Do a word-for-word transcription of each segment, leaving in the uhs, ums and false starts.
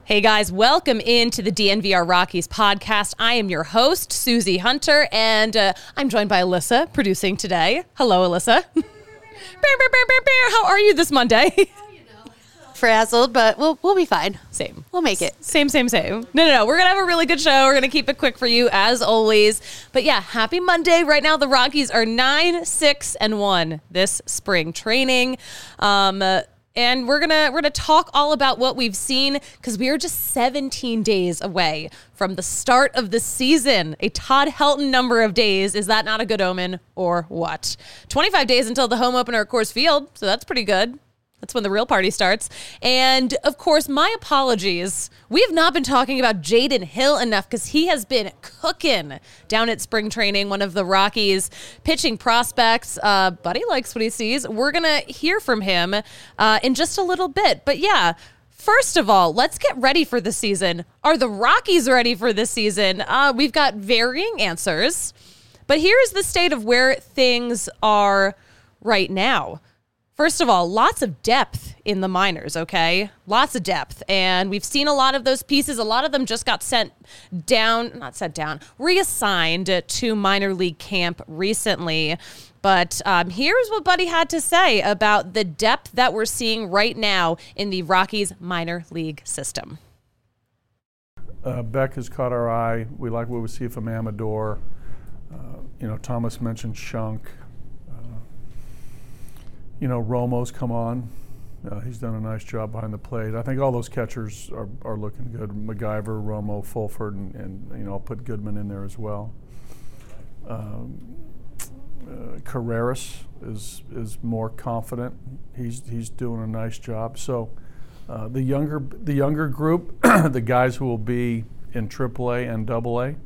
Hey guys, welcome into the D N V R Rockies podcast. I am your host, Susie Hunter, and uh, I'm joined by Alyssa, producing today. Hello, Alyssa. bear, bear, bear, bear, bear. How are you this Monday? Frazzled, but we'll we'll be fine. Same. We'll make it. Same, same, same. No, no, no. We're going to have a really good show. We're going to keep it quick for you, as always. But yeah, happy Monday. Right now, the Rockies are nine, six, and one this spring training. Um... Uh, And we're gonna we're gonna talk all about what we've seen because we are just seventeen days away from the start of the season. A Todd Helton number of days. Is that not a good omen or what? twenty-five days until the home opener at Coors Field, so that's pretty good. That's when the real party starts. And, of course, my apologies. We have not been talking about Jaden Hill enough because he has been cooking down at spring training, one of the Rockies' pitching prospects. Uh, Buddy likes what he sees. We're going to hear from him uh, in just a little bit. But, yeah, first of all, let's get ready for the season. Are the Rockies ready for this season? Uh, we've got varying answers. But here's the state of where things are right now. First of all, lots of depth in the minors, okay? Lots of depth. And we've seen a lot of those pieces. A lot of them just got sent down, not sent down, reassigned to minor league camp recently. But um, here's what Buddy had to say about the depth that we're seeing right now in the Rockies minor league system. Uh, Beck has caught our eye. We like what we see from Amador. Uh, you know, Thomas mentioned Shunk. You know, Romo's come on. Uh, he's done a nice job behind the plate. I think all those catchers are, are looking good. MacGyver, Romo, Fulford, and, and you know, I'll put Goodman in there as well. Um, uh, Carreras is is more confident. He's he's doing a nice job. So uh, the younger the younger group, the guys who will be in triple A and double A,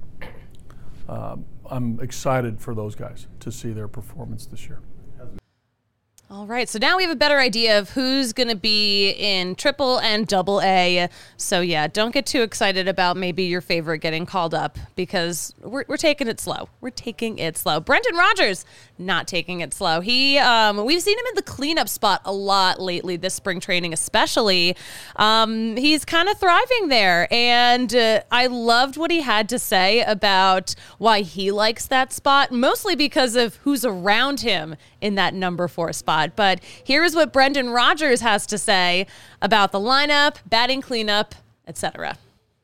uh, I'm excited for those guys to see their performance this year. All right, so now we have a better idea of who's going to be in triple and double A. So yeah, don't get too excited about maybe your favorite getting called up because we're we're taking it slow. We're taking it slow. Brendan Rodgers not taking it slow. He um, we've seen him in the cleanup spot a lot lately this spring training, especially. Um, he's kind of thriving there, and uh, I loved what he had to say about why he likes that spot, mostly because of who's around him in that number four spot. But here's what Brendan Rodgers has to say about the lineup, batting cleanup, et cetera.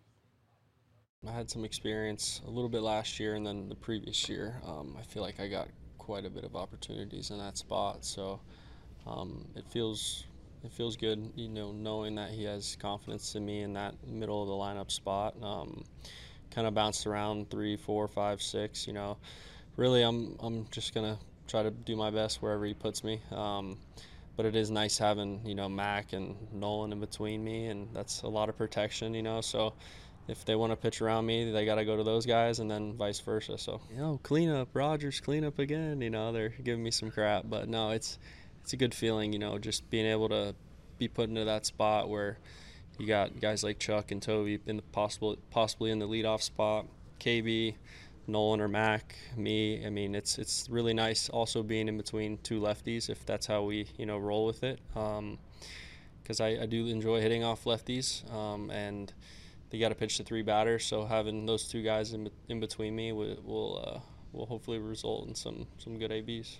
I had some experience a little bit last year and then the previous year. Um, I feel like I got quite a bit of opportunities in that spot, so um, it feels it feels good, you know, knowing that he has confidence in me in that middle of the lineup spot. Um, kind of bounced around three, four, five, six. You know, really, I'm I'm just gonna try to do my best wherever he puts me. Um, but it is nice having, you know, Mac and Nolan in between me, and that's a lot of protection, you know. So if they want to pitch around me, they got to go to those guys, and then vice versa. So, you know, clean up, Rodgers, clean up again. You know, they're giving me some crap. But, no, it's it's a good feeling, you know, just being able to be put into that spot where you got guys like Chuck and Toby in the possible, possibly in the leadoff spot, K B, Nolan or Mac, me. I mean, it's it's really nice also being in between two lefties if that's how we, you know, roll with it. Um, because I, I do enjoy hitting off lefties, um, and they got to pitch to three batters. So having those two guys in in between me will will, uh, will hopefully result in some some good A Bs.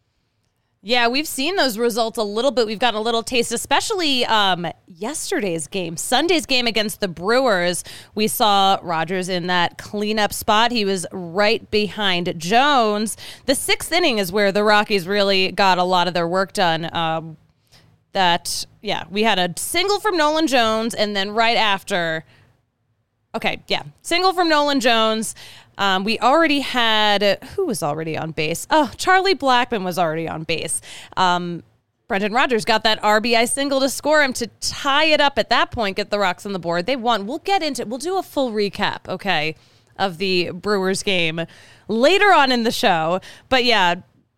Yeah, we've seen those results a little bit. We've gotten a little taste, especially um, yesterday's game, Sunday's game against the Brewers. We saw Rodgers in that cleanup spot. He was right behind Jones. The sixth inning is where the Rockies really got a lot of their work done. Um, that, yeah, we had a single from Nolan Jones, and then right after, okay, yeah, single from Nolan Jones. Um, we already had, who was already on base? Oh, Charlie Blackmon was already on base. Um, Brendan Rodgers got that R B I single to score him to tie it up at that point, get the Rocks on the board. They won. We'll get into it. We'll do a full recap, okay, of the Brewers game later on in the show. But yeah,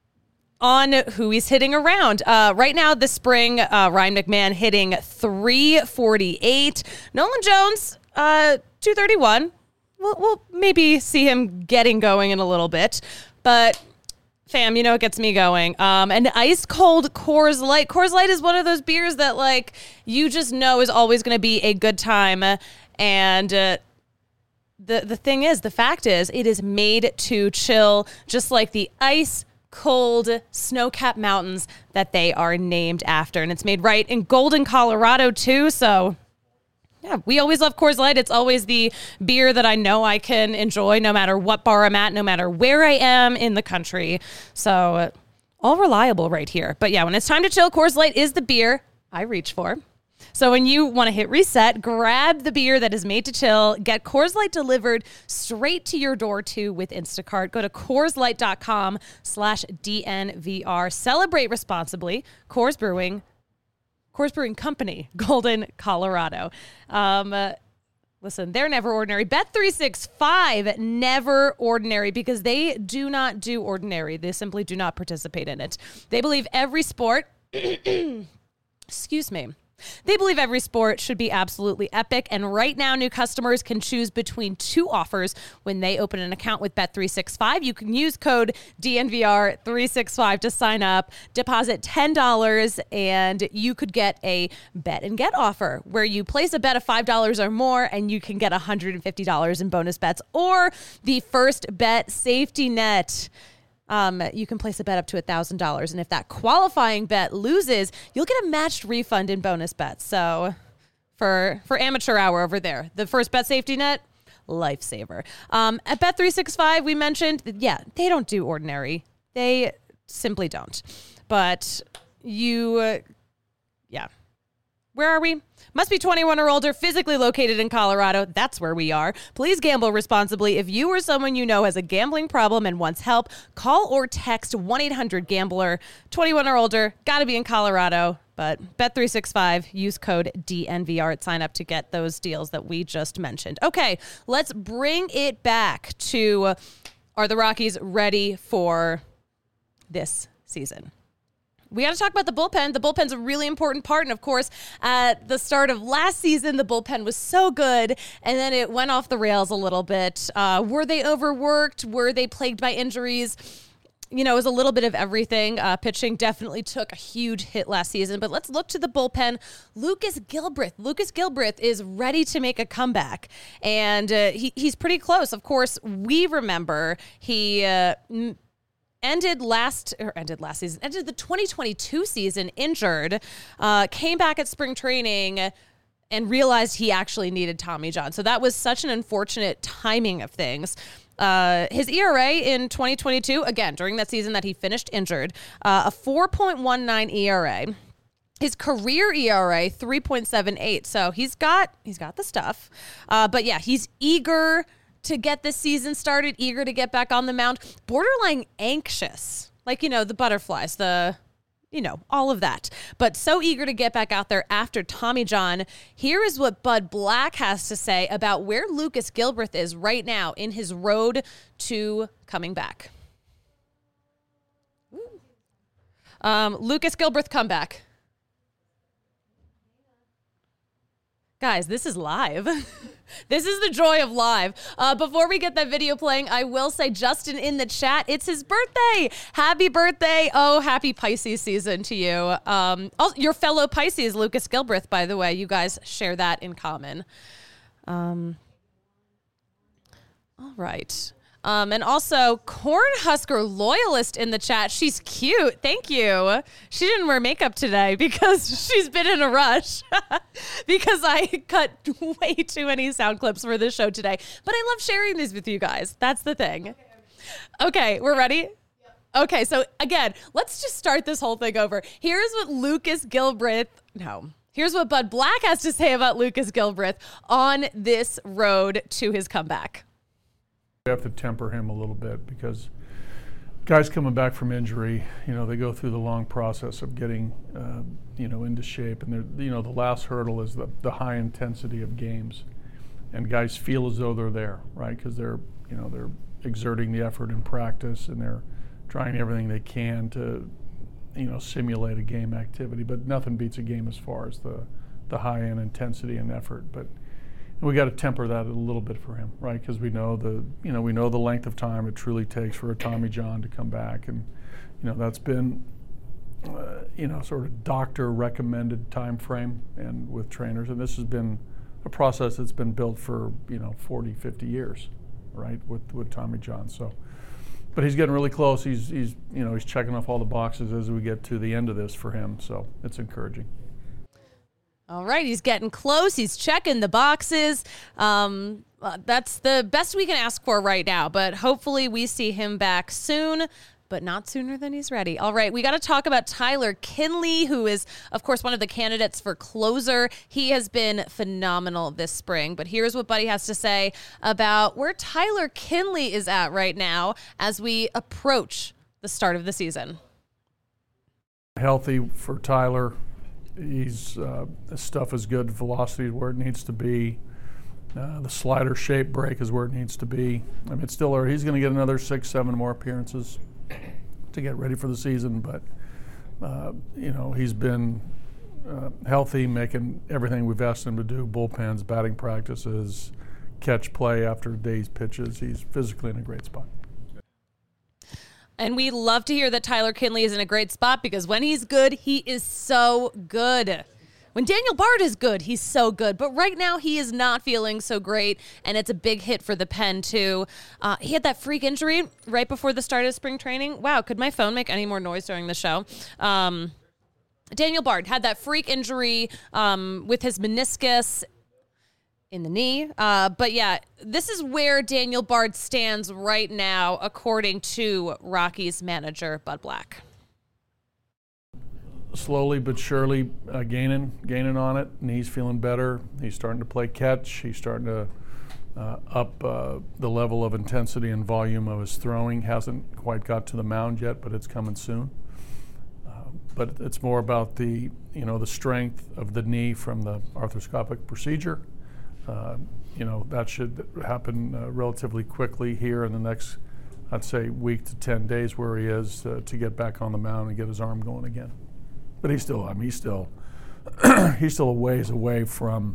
on who he's hitting around. Uh, right now, this spring, uh, Ryan McMahon hitting three forty-eight. Nolan Jones, uh, two thirty-one. We'll, we'll maybe see him getting going in a little bit. But fam, you know it gets me going. Um, an ice cold Coors Light. Coors Light is one of those beers that like you just know is always going to be a good time. And uh, the the thing is, the fact is, it is made to chill, just like the ice cold snow-capped mountains that they are named after. And it's made right in Golden, Colorado too. So yeah, we always love Coors Light. It's always the beer that I know I can enjoy no matter what bar I'm at, no matter where I am in the country. So uh, all reliable right here. But yeah, when it's time to chill, Coors Light is the beer I reach for. So when you want to hit reset, grab the beer that is made to chill. Get Coors Light delivered straight to your door too with Instacart. Go to CoorsLight.com slash DNVR. Celebrate responsibly. Coors Brewing. Coors Brewing Company, Golden, Colorado. Um, uh, listen, they're never ordinary. Bet three sixty-five, never ordinary, because they do not do ordinary. They simply do not participate in it. They believe every sport, excuse me, They believe every sport should be absolutely epic, and right now new customers can choose between two offers when they open an account with Bet three sixty-five. You can use code D N V R three sixty-five to sign up, deposit ten dollars, and you could get a bet and get offer where you place a bet of five dollars or more and you can get one hundred fifty dollars in bonus bets, or the first bet safety net. Um, you can place a bet up to one thousand dollars, and if that qualifying bet loses, you'll get a matched refund in bonus bets. So for for amateur hour over there, the first bet safety net, lifesaver. Um, at Bet three sixty-five, we mentioned, yeah, they don't do ordinary. They simply don't. But you, uh, yeah. Where are we? Must be twenty-one or older, physically located in Colorado. That's where we are. Please gamble responsibly. If you or someone you know has a gambling problem and wants help, call or text one eight hundred gambler. twenty-one or older, got to be in Colorado. But Bet three sixty-five, use code D N V R at sign up to get those deals that we just mentioned. Okay, let's bring it back to, are the Rockies ready for this season? We got to talk about the bullpen. The bullpen's a really important part. And of course, at the start of last season, the bullpen was so good. And then it went off the rails a little bit. Uh, were they overworked? Were they plagued by injuries? You know, it was a little bit of everything. Uh, pitching definitely took a huge hit last season. But let's look to the bullpen. Lucas Gilbreth. Lucas Gilbreth is ready to make a comeback. And uh, he, he's pretty close. Of course, we remember he... Uh, m- Ended last or ended last season, ended the twenty twenty-two season injured, uh, came back at spring training and realized he actually needed Tommy John. So that was such an unfortunate timing of things. Uh, his E R A in twenty twenty-two, again, during that season that he finished injured, uh, a four point one nine E R A. His career E R A, three point seven eight. So he's got, he's got the stuff. Uh, but yeah, he's eager to get this season started, eager to get back on the mound, borderline anxious, like, you know, the butterflies, the, you know, all of that, but so eager to get back out there after Tommy John. Here is what Bud Black has to say about where Lucas Gilbreth is right now in his road to coming back. Um, Lucas Gilbreth comeback. Guys, this is live. This is the joy of live. Uh, before we get that video playing, I will say Justin in the chat, it's his birthday. Happy birthday. Oh, happy Pisces season to you. Um, also, your fellow Pisces, Lucas Gilbreth, by the way, you guys share that in common. Um, all right. Um, and also, Cornhusker Loyalist in the chat. She's cute. Thank you. She didn't wear makeup today because she's been in a rush because I cut way too many sound clips for this show today. But I love sharing these with you guys. That's the thing. Okay, we're ready? Okay, so again, let's just start this whole thing over. Here's what Lucas Gilbreth, no, here's what Bud Black has to say about Lucas Gilbreth on this road to his comeback. We have to temper him a little bit because guys coming back from injury, you know, they go through the long process of getting, uh, you know, into shape. And, they're, you know, the last hurdle is the, the high intensity of games. And guys feel as though they're there, right? Because they're, you know, they're exerting the effort in practice and they're trying everything they can to, you know, simulate a game activity. But nothing beats a game as far as the, the high end intensity and effort. But we got to temper that a little bit for him, right? Because we know the, you know, we know the length of time it truly takes for a Tommy John to come back, and you know that's been, uh, you know, sort of doctor recommended time frame, and with trainers, and this has been a process that's been built for you know forty, fifty years, right? With with Tommy John, so. But he's getting really close. He's he's you know he's checking off all the boxes as we get to the end of this for him, so it's encouraging. All right, he's getting close. He's checking the boxes. Um, uh, that's the best we can ask for right now, but hopefully we see him back soon, but not sooner than he's ready. All right, we got to talk about Tyler Kinley, who is, of course, one of the candidates for closer. He has been phenomenal this spring, but here's what Buddy has to say about where Tyler Kinley is at right now as we approach the start of the season. Healthy for Tyler. He's uh, his stuff is good. Velocity is where it needs to be. Uh, the slider shape break is where it needs to be. I mean, it's still early. He's going to get another six, seven more appearances to get ready for the season. But uh, you know, he's been uh, healthy, making everything we've asked him to do: bullpens, batting practices, catch play after day's pitches. He's physically in a great spot. And we love to hear that Tyler Kinley is in a great spot, because when he's good, he is so good. When Daniel Bard is good, he's so good. But right now, he is not feeling so great, and it's a big hit for the pen, too. Uh, he had that freak injury right before the start of spring training. Wow, could my phone make any more noise during the show? Um, Daniel Bard had that freak injury um, with his meniscus in the knee. Uh, but yeah, this is where Daniel Bard stands right now, according to Rockies manager Bud Black. Slowly but surely uh, gaining, gaining on it, and he's feeling better. He's starting to play catch. He's starting to uh, up uh, the level of intensity and volume of his throwing. Hasn't quite got to the mound yet, but it's coming soon. Uh, but it's more about the, you know, the strength of the knee from the arthroscopic procedure. Uh, you know, that should happen uh, relatively quickly here in the next, I'd say, week to ten days where he is uh, to get back on the mound and get his arm going again. But he's still, I mean, he's still, he's still a ways away from,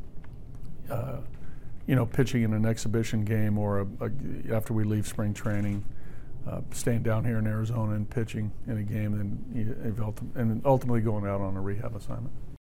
uh, you know, pitching in an exhibition game or a, a, after we leave spring training, uh, staying down here in Arizona and pitching in a game and, and ultimately going out on a rehab assignment.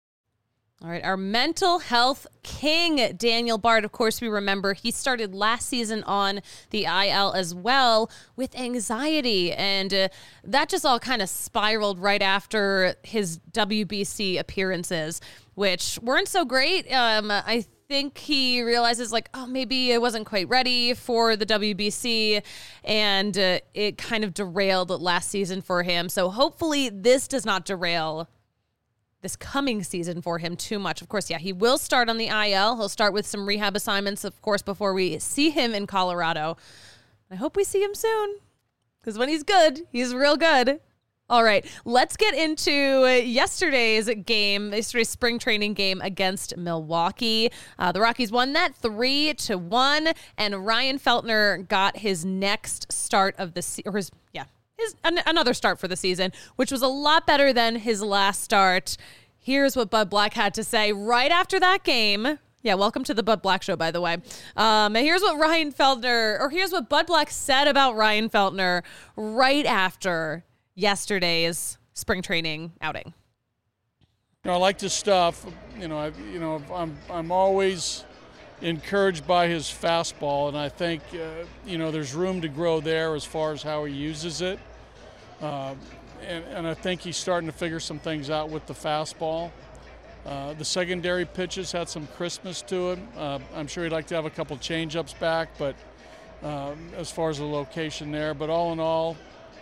All right, our mental health king, Daniel Bard. Of course, we remember he started last season on the I L as well with anxiety, and uh, that just all kind of spiraled right after his W B C appearances, which weren't so great. Um, I think he realizes, like, oh, maybe I wasn't quite ready for the W B C, and uh, it kind of derailed last season for him. So hopefully this does not derail this coming season for him too much. Of course, yeah, he will start on the I L. He'll start with some rehab assignments, of course, before we see him in Colorado. I hope we see him soon, because when he's good, he's real good. All right, let's get into yesterday's game, yesterday's spring training game against Milwaukee. Uh, the Rockies won that three to one, and Ryan Feltner got his next start of the season, or his, yeah, His, an, another start for the season, which was a lot better than his last start. Here's what Bud Black had to say right after that game. Yeah, welcome to the Bud Black Show, by the way. Um, here's what Ryan Feltner, or here's what Bud Black said about Ryan Feltner right after yesterday's spring training outing. You know, I like his stuff. You know, I, you know, I'm I'm always encouraged by his fastball, and I think uh, you know there's room to grow there as far as how he uses it. Uh, and, and I think he's starting to figure some things out with the fastball. Uh, the secondary pitches had some crispness to him. Uh, I'm sure he'd like to have a couple change-ups back, but um, as far as the location there. But all in all,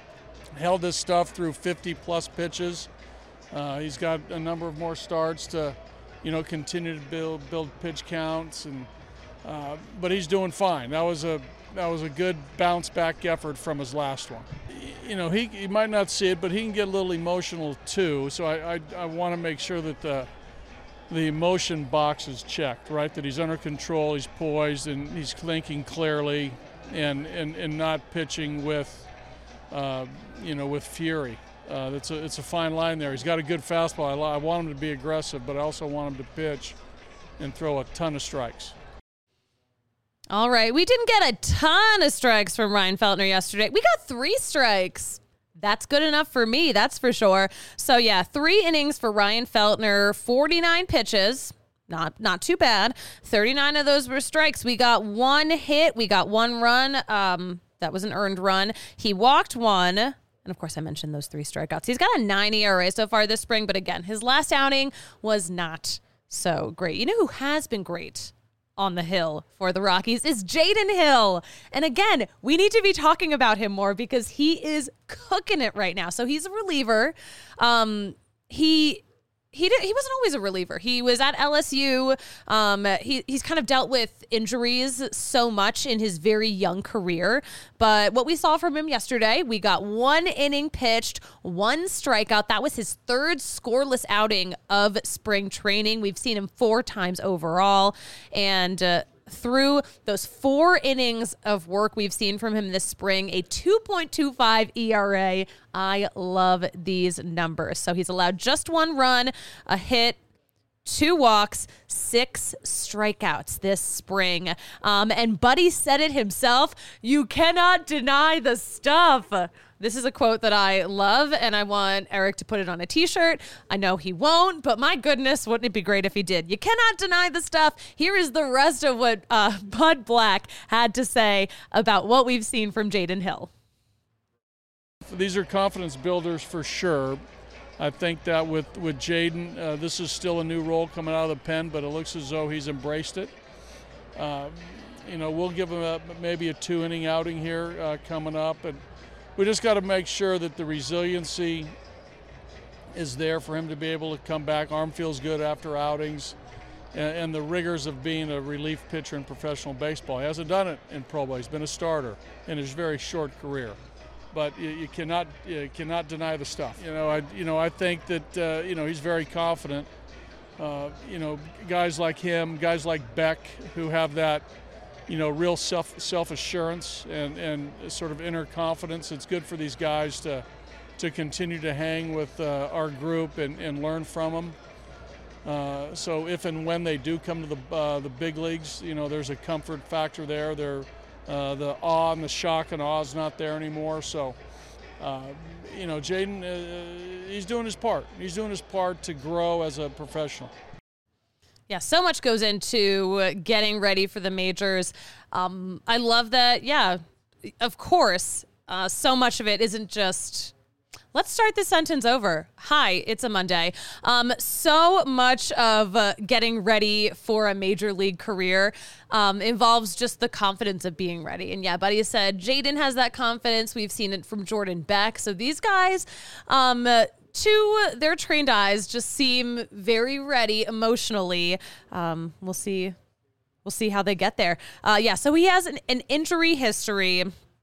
held this stuff through fifty plus pitches. Uh, he's got a number of more starts to, you know, continue to build build pitch counts, and uh, but he's doing fine. That was a that was a good bounce back effort from his last one. You know, he, he might not see it, but he can get a little emotional too. So I I, I want to make sure that the the emotion box is checked, right? That he's under control, he's poised, and he's thinking clearly, and and, and not pitching with uh, you know with fury. Uh, it's a it's a fine line there. He's got a good fastball. I, I want him to be aggressive, but I also want him to pitch and throw a ton of strikes. All right. We didn't get a ton of strikes from Ryan Feltner yesterday. We got three strikes. That's good enough for me, that's for sure. So, yeah, three innings for Ryan Feltner, forty-nine pitches. Not not too bad. thirty-nine of those were strikes. We got one hit. We got one run. Um, that was an earned run. He walked one. And, of course, I mentioned those three strikeouts. He's got a nine E R A so far this spring. But, again, his last outing was not so great. You know who has been great on the hill for the Rockies is Jaden Hill. And again, we need to be talking about him more because he is cooking it right now. So he's a reliever. Um, he he did, he wasn't always a reliever. He was at L S U. Um, he he's kind of dealt with injuries so much in his very young career. But what we saw from him yesterday, we got one inning pitched, one strikeout. That was his third scoreless outing of spring training. We've seen him four times overall. And uh, through those four innings of work we've seen from him this spring, a two point two five E R A. I love these numbers. So he's allowed just one run, a hit, two walks, six strikeouts this spring. Um, and Buddy said it himself, you cannot deny the stuff. This is a quote that I love, and I want Eric to put it on a t-shirt. I know he won't, but my goodness, wouldn't it be great if he did? You cannot deny the stuff. Here is the rest of what uh, Bud Black had to say about what we've seen from Jaden Hill. These are confidence builders for sure. I think that with, with Jaden, uh, this is still a new role coming out of the pen, but it looks as though he's embraced it. Uh, you know, we'll give him a, maybe a two-inning outing here uh, coming up, and we just got to make sure that the resiliency is there for him to be able to come back. Arm feels good after outings, and, and the rigors of being a relief pitcher in professional baseball. He hasn't done it in pro ball. He's been a starter in his very short career. But you, you cannot you cannot deny the stuff. You know, I you know I think that uh, you know he's very confident. Uh, you know, guys like him, guys like Beck, who have that, you know, real self self assurance and and sort of inner confidence. It's good for these guys to to continue to hang with uh, our group and, and learn from them. Uh, so if and when they do come to the uh, the big leagues, you know, there's a comfort factor there. They're Uh, the awe and the shock and awe is not there anymore. So, uh, you know, Jaden, uh, he's doing his part. He's doing his part to grow as a professional. Yeah, so much goes into getting ready for the majors. Um, I love that, yeah, of course, uh, so much of it isn't just... Let's start this sentence over. Hi, it's a Monday. Um, so much of uh, getting ready for a major league career um, involves just the confidence of being ready. And yeah, Buddy said Jaden has that confidence. We've seen it from Jordan Beck. So these guys, um, to their trained eyes, just seem very ready emotionally. Um, we'll see. We'll see how they get there. Uh, yeah, so he has an, an injury history.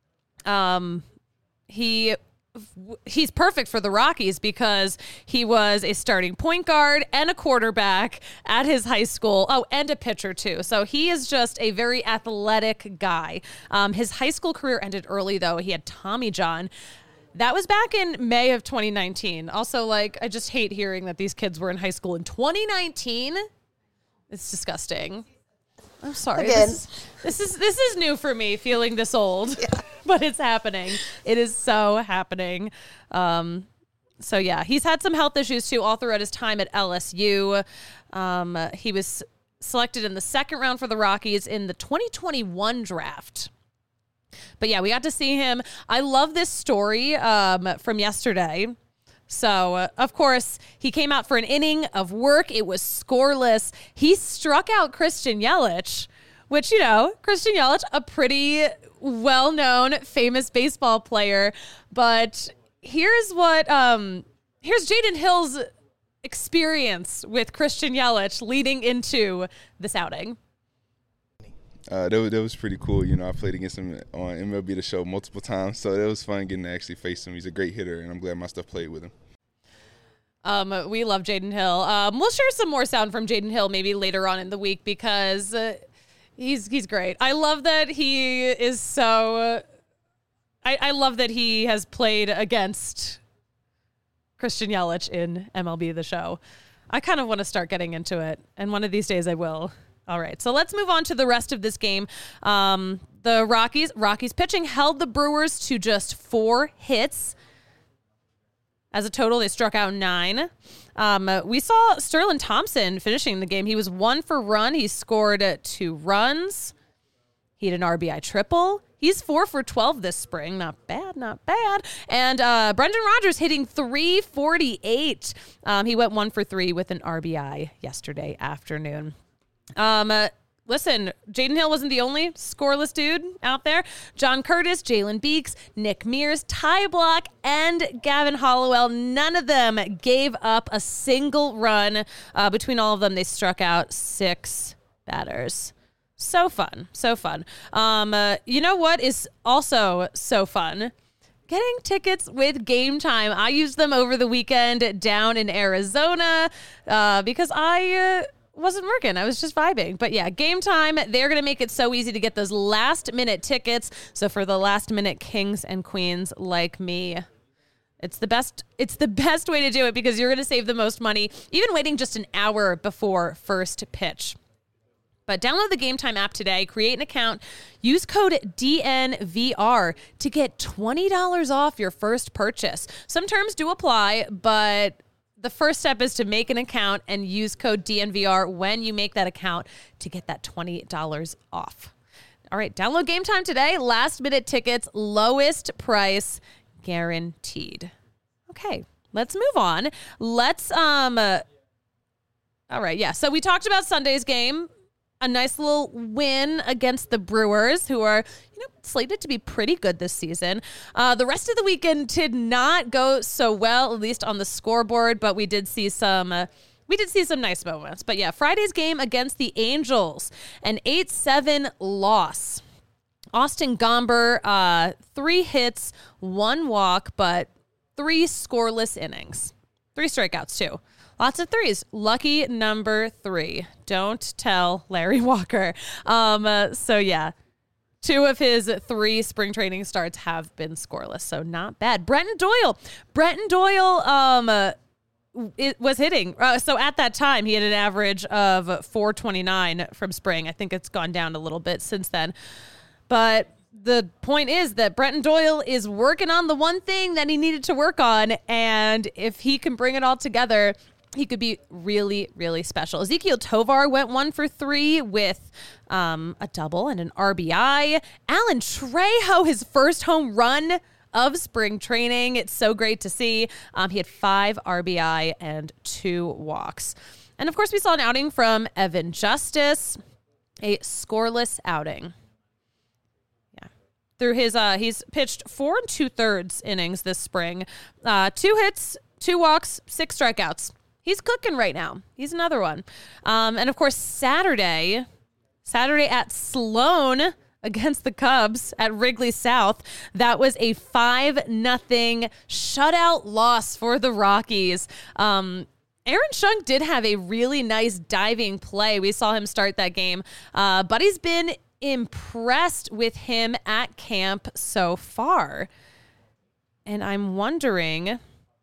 Um, he... He's perfect for the Rockies because he was a starting point guard and a quarterback at his high school. Oh, and a pitcher too. So he is just a very athletic guy. Um, his high school career ended early though. He had Tommy John. That was back in May of twenty nineteen. Also, like, I just hate hearing that these kids were in high school in twenty nineteen. It's disgusting. I'm sorry. Again. This is, this is this is new for me, feeling this old, Yeah. but it's happening. It is so happening. Um, so yeah, he's had some health issues too all throughout his time at L S U. Um, he was selected in the second round for the Rockies in the twenty twenty-one draft. But yeah, we got to see him. I love this story um, from yesterday. So, uh, of course, he came out for an inning of work. It was scoreless. He struck out Christian Yelich, which, you know, Christian Yelich, a pretty well-known, famous baseball player. But here's what, um, here's Jaden Hill's experience with Christian Yelich leading into this outing. Uh, that, was, that was pretty cool. You know, I played against him on M L B The Show multiple times, so it was fun getting to actually face him. He's a great hitter, and I'm glad my stuff played with him. Um, we love Jaden Hill. Um, we'll share some more sound from Jaden Hill maybe later on in the week because uh, he's he's great. I love that he is so. Uh, I, I love that he has played against Christian Yelich in M L B The Show. I kind of want to start getting into it, and one of these days I will. All right, so let's move on to the rest of this game. Um, the Rockies, Rockies pitching held the Brewers to just four hits. As a total, they struck out nine. Um, we saw Sterling Thompson finishing the game. He was one for run. He scored two runs. He had an R B I triple. He's four for twelve this spring. Not bad, not bad. And uh, Brendan Rodgers hitting three forty-eight. Um, he went one for three with an R B I yesterday afternoon. Um, uh, listen, Jaden Hill wasn't the only scoreless dude out there. John Curtis, Jalen Beeks, Nick Mears, Ty Block, and Gavin Hollowell. None of them gave up a single run. Uh, between all of them, they struck out six batters. So fun. So fun. Um, uh, you know what is also so fun? Getting tickets with Game Time. I used them over the weekend down in Arizona uh, because I... Uh, wasn't working. I was just vibing. But yeah, Game Time, they're going to make it so easy to get those last minute tickets. So for the last minute kings and queens like me, it's the best it's the best way to do it because you're going to save the most money even waiting just an hour before first pitch. But download the Game Time app today, create an account, use code D N V R to get twenty dollars off your first purchase. Some terms do apply, but the first step is to make an account and use code D N V R when you make that account to get that twenty dollars off. All right, download Game Time today. Last minute tickets, lowest price guaranteed. Okay, let's move on. Let's, um, uh, all right, yeah. So we talked about Sunday's game. A nice little win against the Brewers, who are, you know, slated to be pretty good this season. Uh, the rest of the weekend did not go so well, at least on the scoreboard, but we did see some uh, we did see some nice moments. But yeah, Friday's game against the Angels, an eight seven loss. Austin Gomber, uh, three hits, one walk, but three scoreless innings. Three strikeouts, too. Lots of threes. Lucky number three. Don't tell Larry Walker. Um, uh, so, yeah, two of his three spring training starts have been scoreless, so not bad. Brenton Doyle. Brenton Doyle um, uh, it was hitting. Uh, so at that time, he had an average of four twenty-nine from spring. I think it's gone down a little bit since then. But the point is that Brenton Doyle is working on the one thing that he needed to work on, and if he can bring it all together, he could be really, really special. Ezekiel Tovar went one for three with um, a double and an R B I. Alan Trejo, his first home run of spring training. It's so great to see. Um, he had five R B I and two walks. And of course, we saw an outing from Evan Justice, a scoreless outing. Yeah. Through his, uh, he's pitched four and two thirds innings this spring. Uh, two hits, two walks, six strikeouts. He's cooking right now. He's another one. Um, and, of course, Saturday, Saturday at Sloan against the Cubs at Wrigley South, that was a five nothing shutout loss for the Rockies. Um, Aaron Schunk did have a really nice diving play. We saw him start that game. Uh, Buddy's been impressed with him at camp so far. And I'm wondering...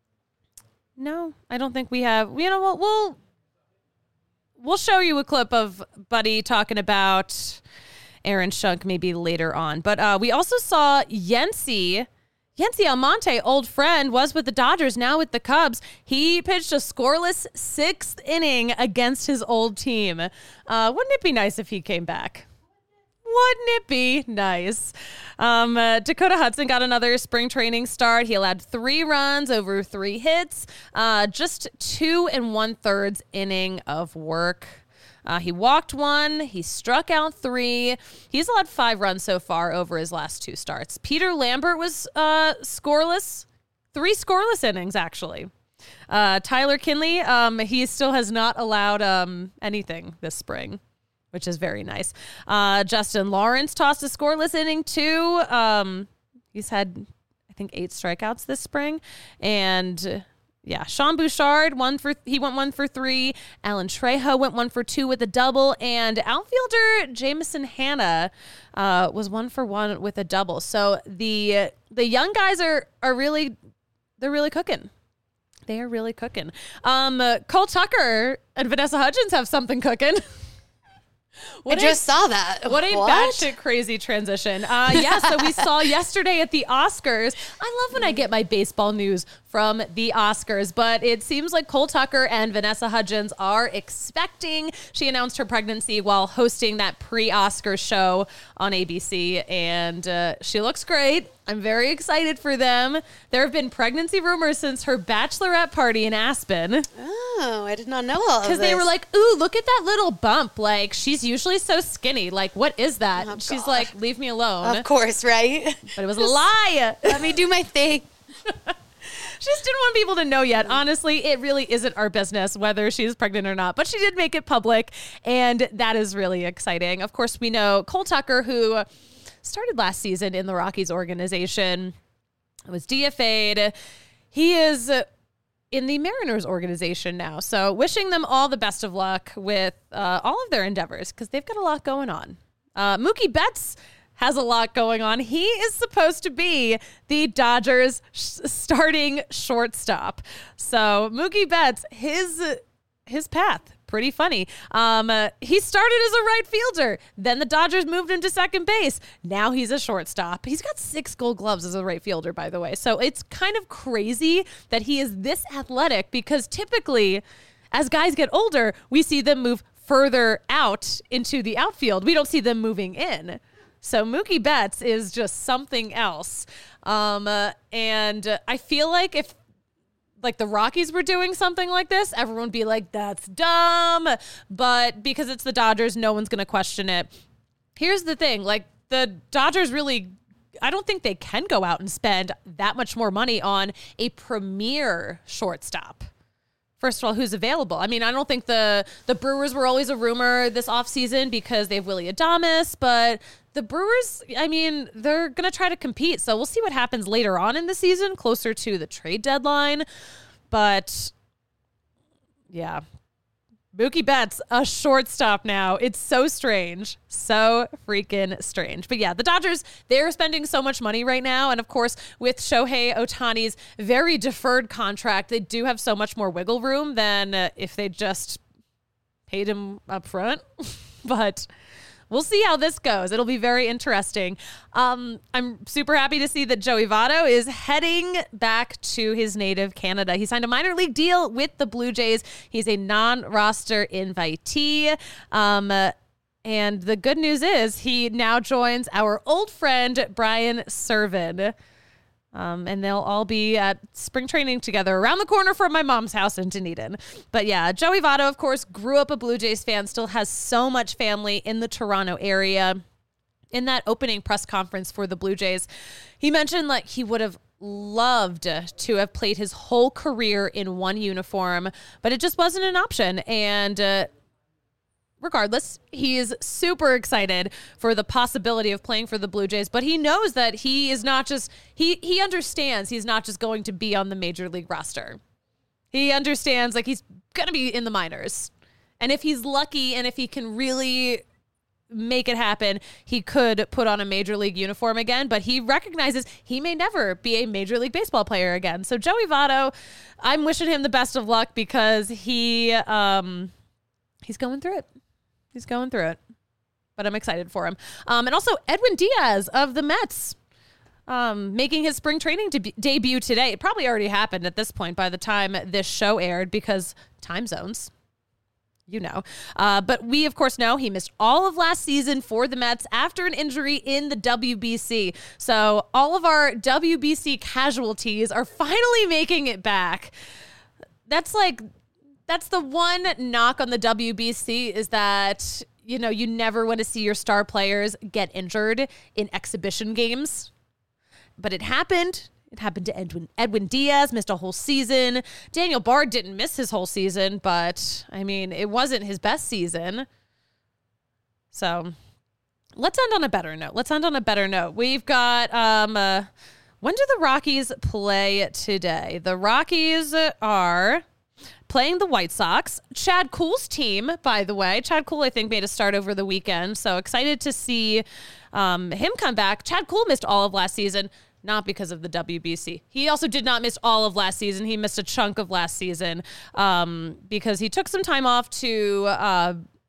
No, I don't think we have. You know what? We'll we'll show you a clip of Buddy talking about Aaron Schunk maybe later on. But uh, we also saw Yency, Yency Almonte, old friend, was with the Dodgers, now with the Cubs. He pitched a scoreless sixth inning against his old team. Uh, wouldn't it be nice if he came back? Wouldn't it be nice? Um, uh, Dakota Hudson got another spring training start. He allowed three runs over three hits, uh, just two and one thirds inning of work. Uh, he walked one. He struck out three. He's allowed five runs so far over his last two starts. Peter Lambert was uh, scoreless, three scoreless innings actually. Uh, Tyler Kinley, um, he still has not allowed um, anything this spring, which is very nice. Uh, Justin Lawrence tossed a scoreless inning, too. Um, he's had, I think, eight strikeouts this spring. And, uh, yeah, Sean Bouchard, one for he went one for three. Alan Trejo went one for two with a double. And outfielder Jameson Hanna uh, was one for one with a double. So the the young guys are are really, they're really cooking. They are really cooking. Um, uh, Cole Tucker and Vanessa Hudgens have something cooking. What I a- just saw that. What a What? batshit crazy transition. Uh, yeah, so we saw yesterday at the Oscars. I love when I get my baseball news from the Oscars, but it seems like Cole Tucker and Vanessa Hudgens are expecting. She announced her pregnancy while hosting that pre-Oscar show on A B C, and uh, she looks great. I'm very excited for them. There have been pregnancy rumors since her bachelorette party in Aspen. Oh, I did not know all of this. Because they were like, ooh, look at that little bump. Like, she's usually so skinny. Like, what is that? Oh, And she's God. like, leave me alone. Of course, right? But it was a lie. Let me do my thing. She just didn't want people to know yet. Honestly, it really isn't our business whether she's pregnant or not. But she did make it public, and that is really exciting. Of course, we know Cole Tucker, who started last season in the Rockies organization, was D F A'd. He is in the Mariners organization now. So wishing them all the best of luck with uh, all of their endeavors, because they've got a lot going on. Uh, Mookie Betts has a lot going on. He is supposed to be the Dodgers sh- starting shortstop. So Mookie Betts, his his path, pretty funny. Um, uh, he started as a right fielder. Then the Dodgers moved him to second base. Now he's a shortstop. He's got six gold gloves as a right fielder, by the way. So it's kind of crazy that he is this athletic, because typically as guys get older, we see them move further out into the outfield. We don't see them moving in. So Mookie Betts is just something else. Um, uh, and uh, I feel like if like the Rockies were doing something like this, everyone would be like, that's dumb. But because it's the Dodgers, no one's going to question it. Here's the thing. Like, the Dodgers really, I don't think they can go out and spend that much more money on a premier shortstop. First of all, who's available? I mean, I don't think the the Brewers were always a rumor this offseason because they have Willy Adames, but the Brewers, I mean, they're going to try to compete. So we'll see what happens later on in the season, closer to the trade deadline. But yeah, Mookie Betts, a shortstop now. It's so strange. So freaking strange. But yeah, the Dodgers, they're spending so much money right now. And of course, with Shohei Ohtani's very deferred contract, they do have so much more wiggle room than uh, if they just paid him up front. But we'll see how this goes. It'll be very interesting. Um, I'm super happy to see that Joey Votto is heading back to his native Canada. He signed a minor league deal with the Blue Jays. He's a non-roster invitee. Um, uh, and the good news is he now joins our old friend, Brian Serven. Um, and they'll all be at spring training together around the corner from my mom's house in Dunedin. But yeah, Joey Votto, of course, grew up a Blue Jays fan, still has so much family in the Toronto area. In that opening press conference for the Blue Jays, he mentioned like he would have loved to have played his whole career in one uniform, but it just wasn't an option. And uh, regardless, he is super excited for the possibility of playing for the Blue Jays, but he knows that he is not just, he he understands he's not just going to be on the major league roster. He understands like he's going to be in the minors. And if he's lucky and if he can really make it happen, he could put on a major league uniform again, but he recognizes he may never be a major league baseball player again. So Joey Votto, I'm wishing him the best of luck because he um he's going through it. He's going through it, but I'm excited for him. Um, and also Edwin Diaz of the Mets, um, making his spring training de- debut today. It probably already happened at this point by the time this show aired because time zones, you know. Uh, but we, of course, know he missed all of last season for the Mets after an injury in the W B C. So all of our W B C casualties are finally making it back. That's like... That's the one knock on the W B C is that, you know, you never want to see your star players get injured in exhibition games. But it happened. It happened to Edwin, Edwin Diaz, missed a whole season. Daniel Bard didn't miss his whole season, but, I mean, it wasn't his best season. So let's end on a better note. Let's end on a better note. We've got, um, uh, when do the Rockies play today? The Rockies are playing the White Sox. Chad Kuhl's team, by the way. Chad Kuhl, I think, made a start over the weekend. So excited to see um, him come back. Chad Kuhl missed all of last season, not because of the W B C. He also did not miss all of last season. He missed a chunk of last season um, because he took some time off to, uh,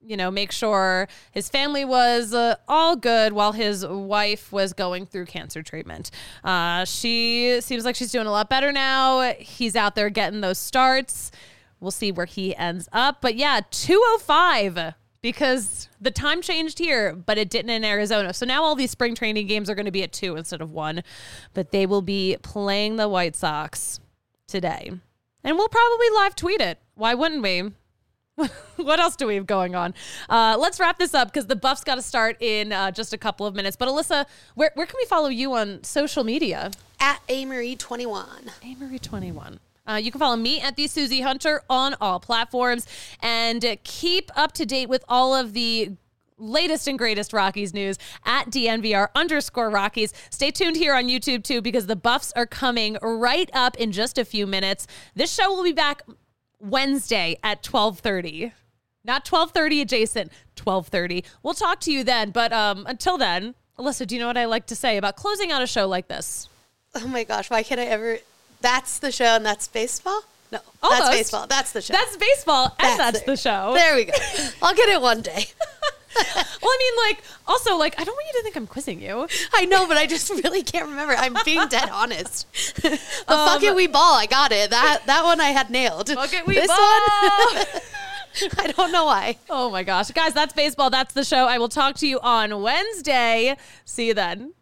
you know, make sure his family was uh, all good while his wife was going through cancer treatment. Uh, she seems like she's doing a lot better now. He's out there getting those starts. We'll see where he ends up. But yeah, two oh five because the time changed here, but it didn't in Arizona. So now all these spring training games are going to be at two instead of one. But they will be playing the White Sox today. And we'll probably live tweet it. Why wouldn't we? What else do we have going on? Uh, let's wrap this up because the Buffs got to start in uh, just a couple of minutes. But Alyssa, where, where can we follow you on social media? At A Marie twenty-one. A Marie twenty-one. Uh, you can follow me at the Susie Hunter on all platforms and uh, keep up to date with all of the latest and greatest Rockies news at D N V R underscore Rockies. Stay tuned here on YouTube too because the Buffs are coming right up in just a few minutes. This show will be back Wednesday at twelve thirty. Not twelve thirty adjacent, twelve thirty. We'll talk to you then, but um, until then, Alyssa, do you know what I like to say about closing out a show like this? Oh my gosh, why can't I ever... That's the show and that's baseball? No, Almost. That's baseball. That's the show. That's baseball, and that's, That's it. the show. There we go. I'll get it one day. Well, I mean, like, also, like, I don't want you to think I'm quizzing you. I know, but I just really can't remember. I'm being dead honest. The Um, fuck it, we ball. I got it. That that one I had nailed. Fuck it, we this ball. one, I don't know why. Oh my gosh. Guys, that's baseball. That's the show. I will talk to you on Wednesday. See you then.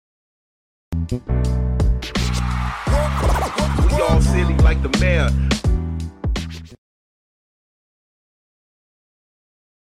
We all silly like the mayor.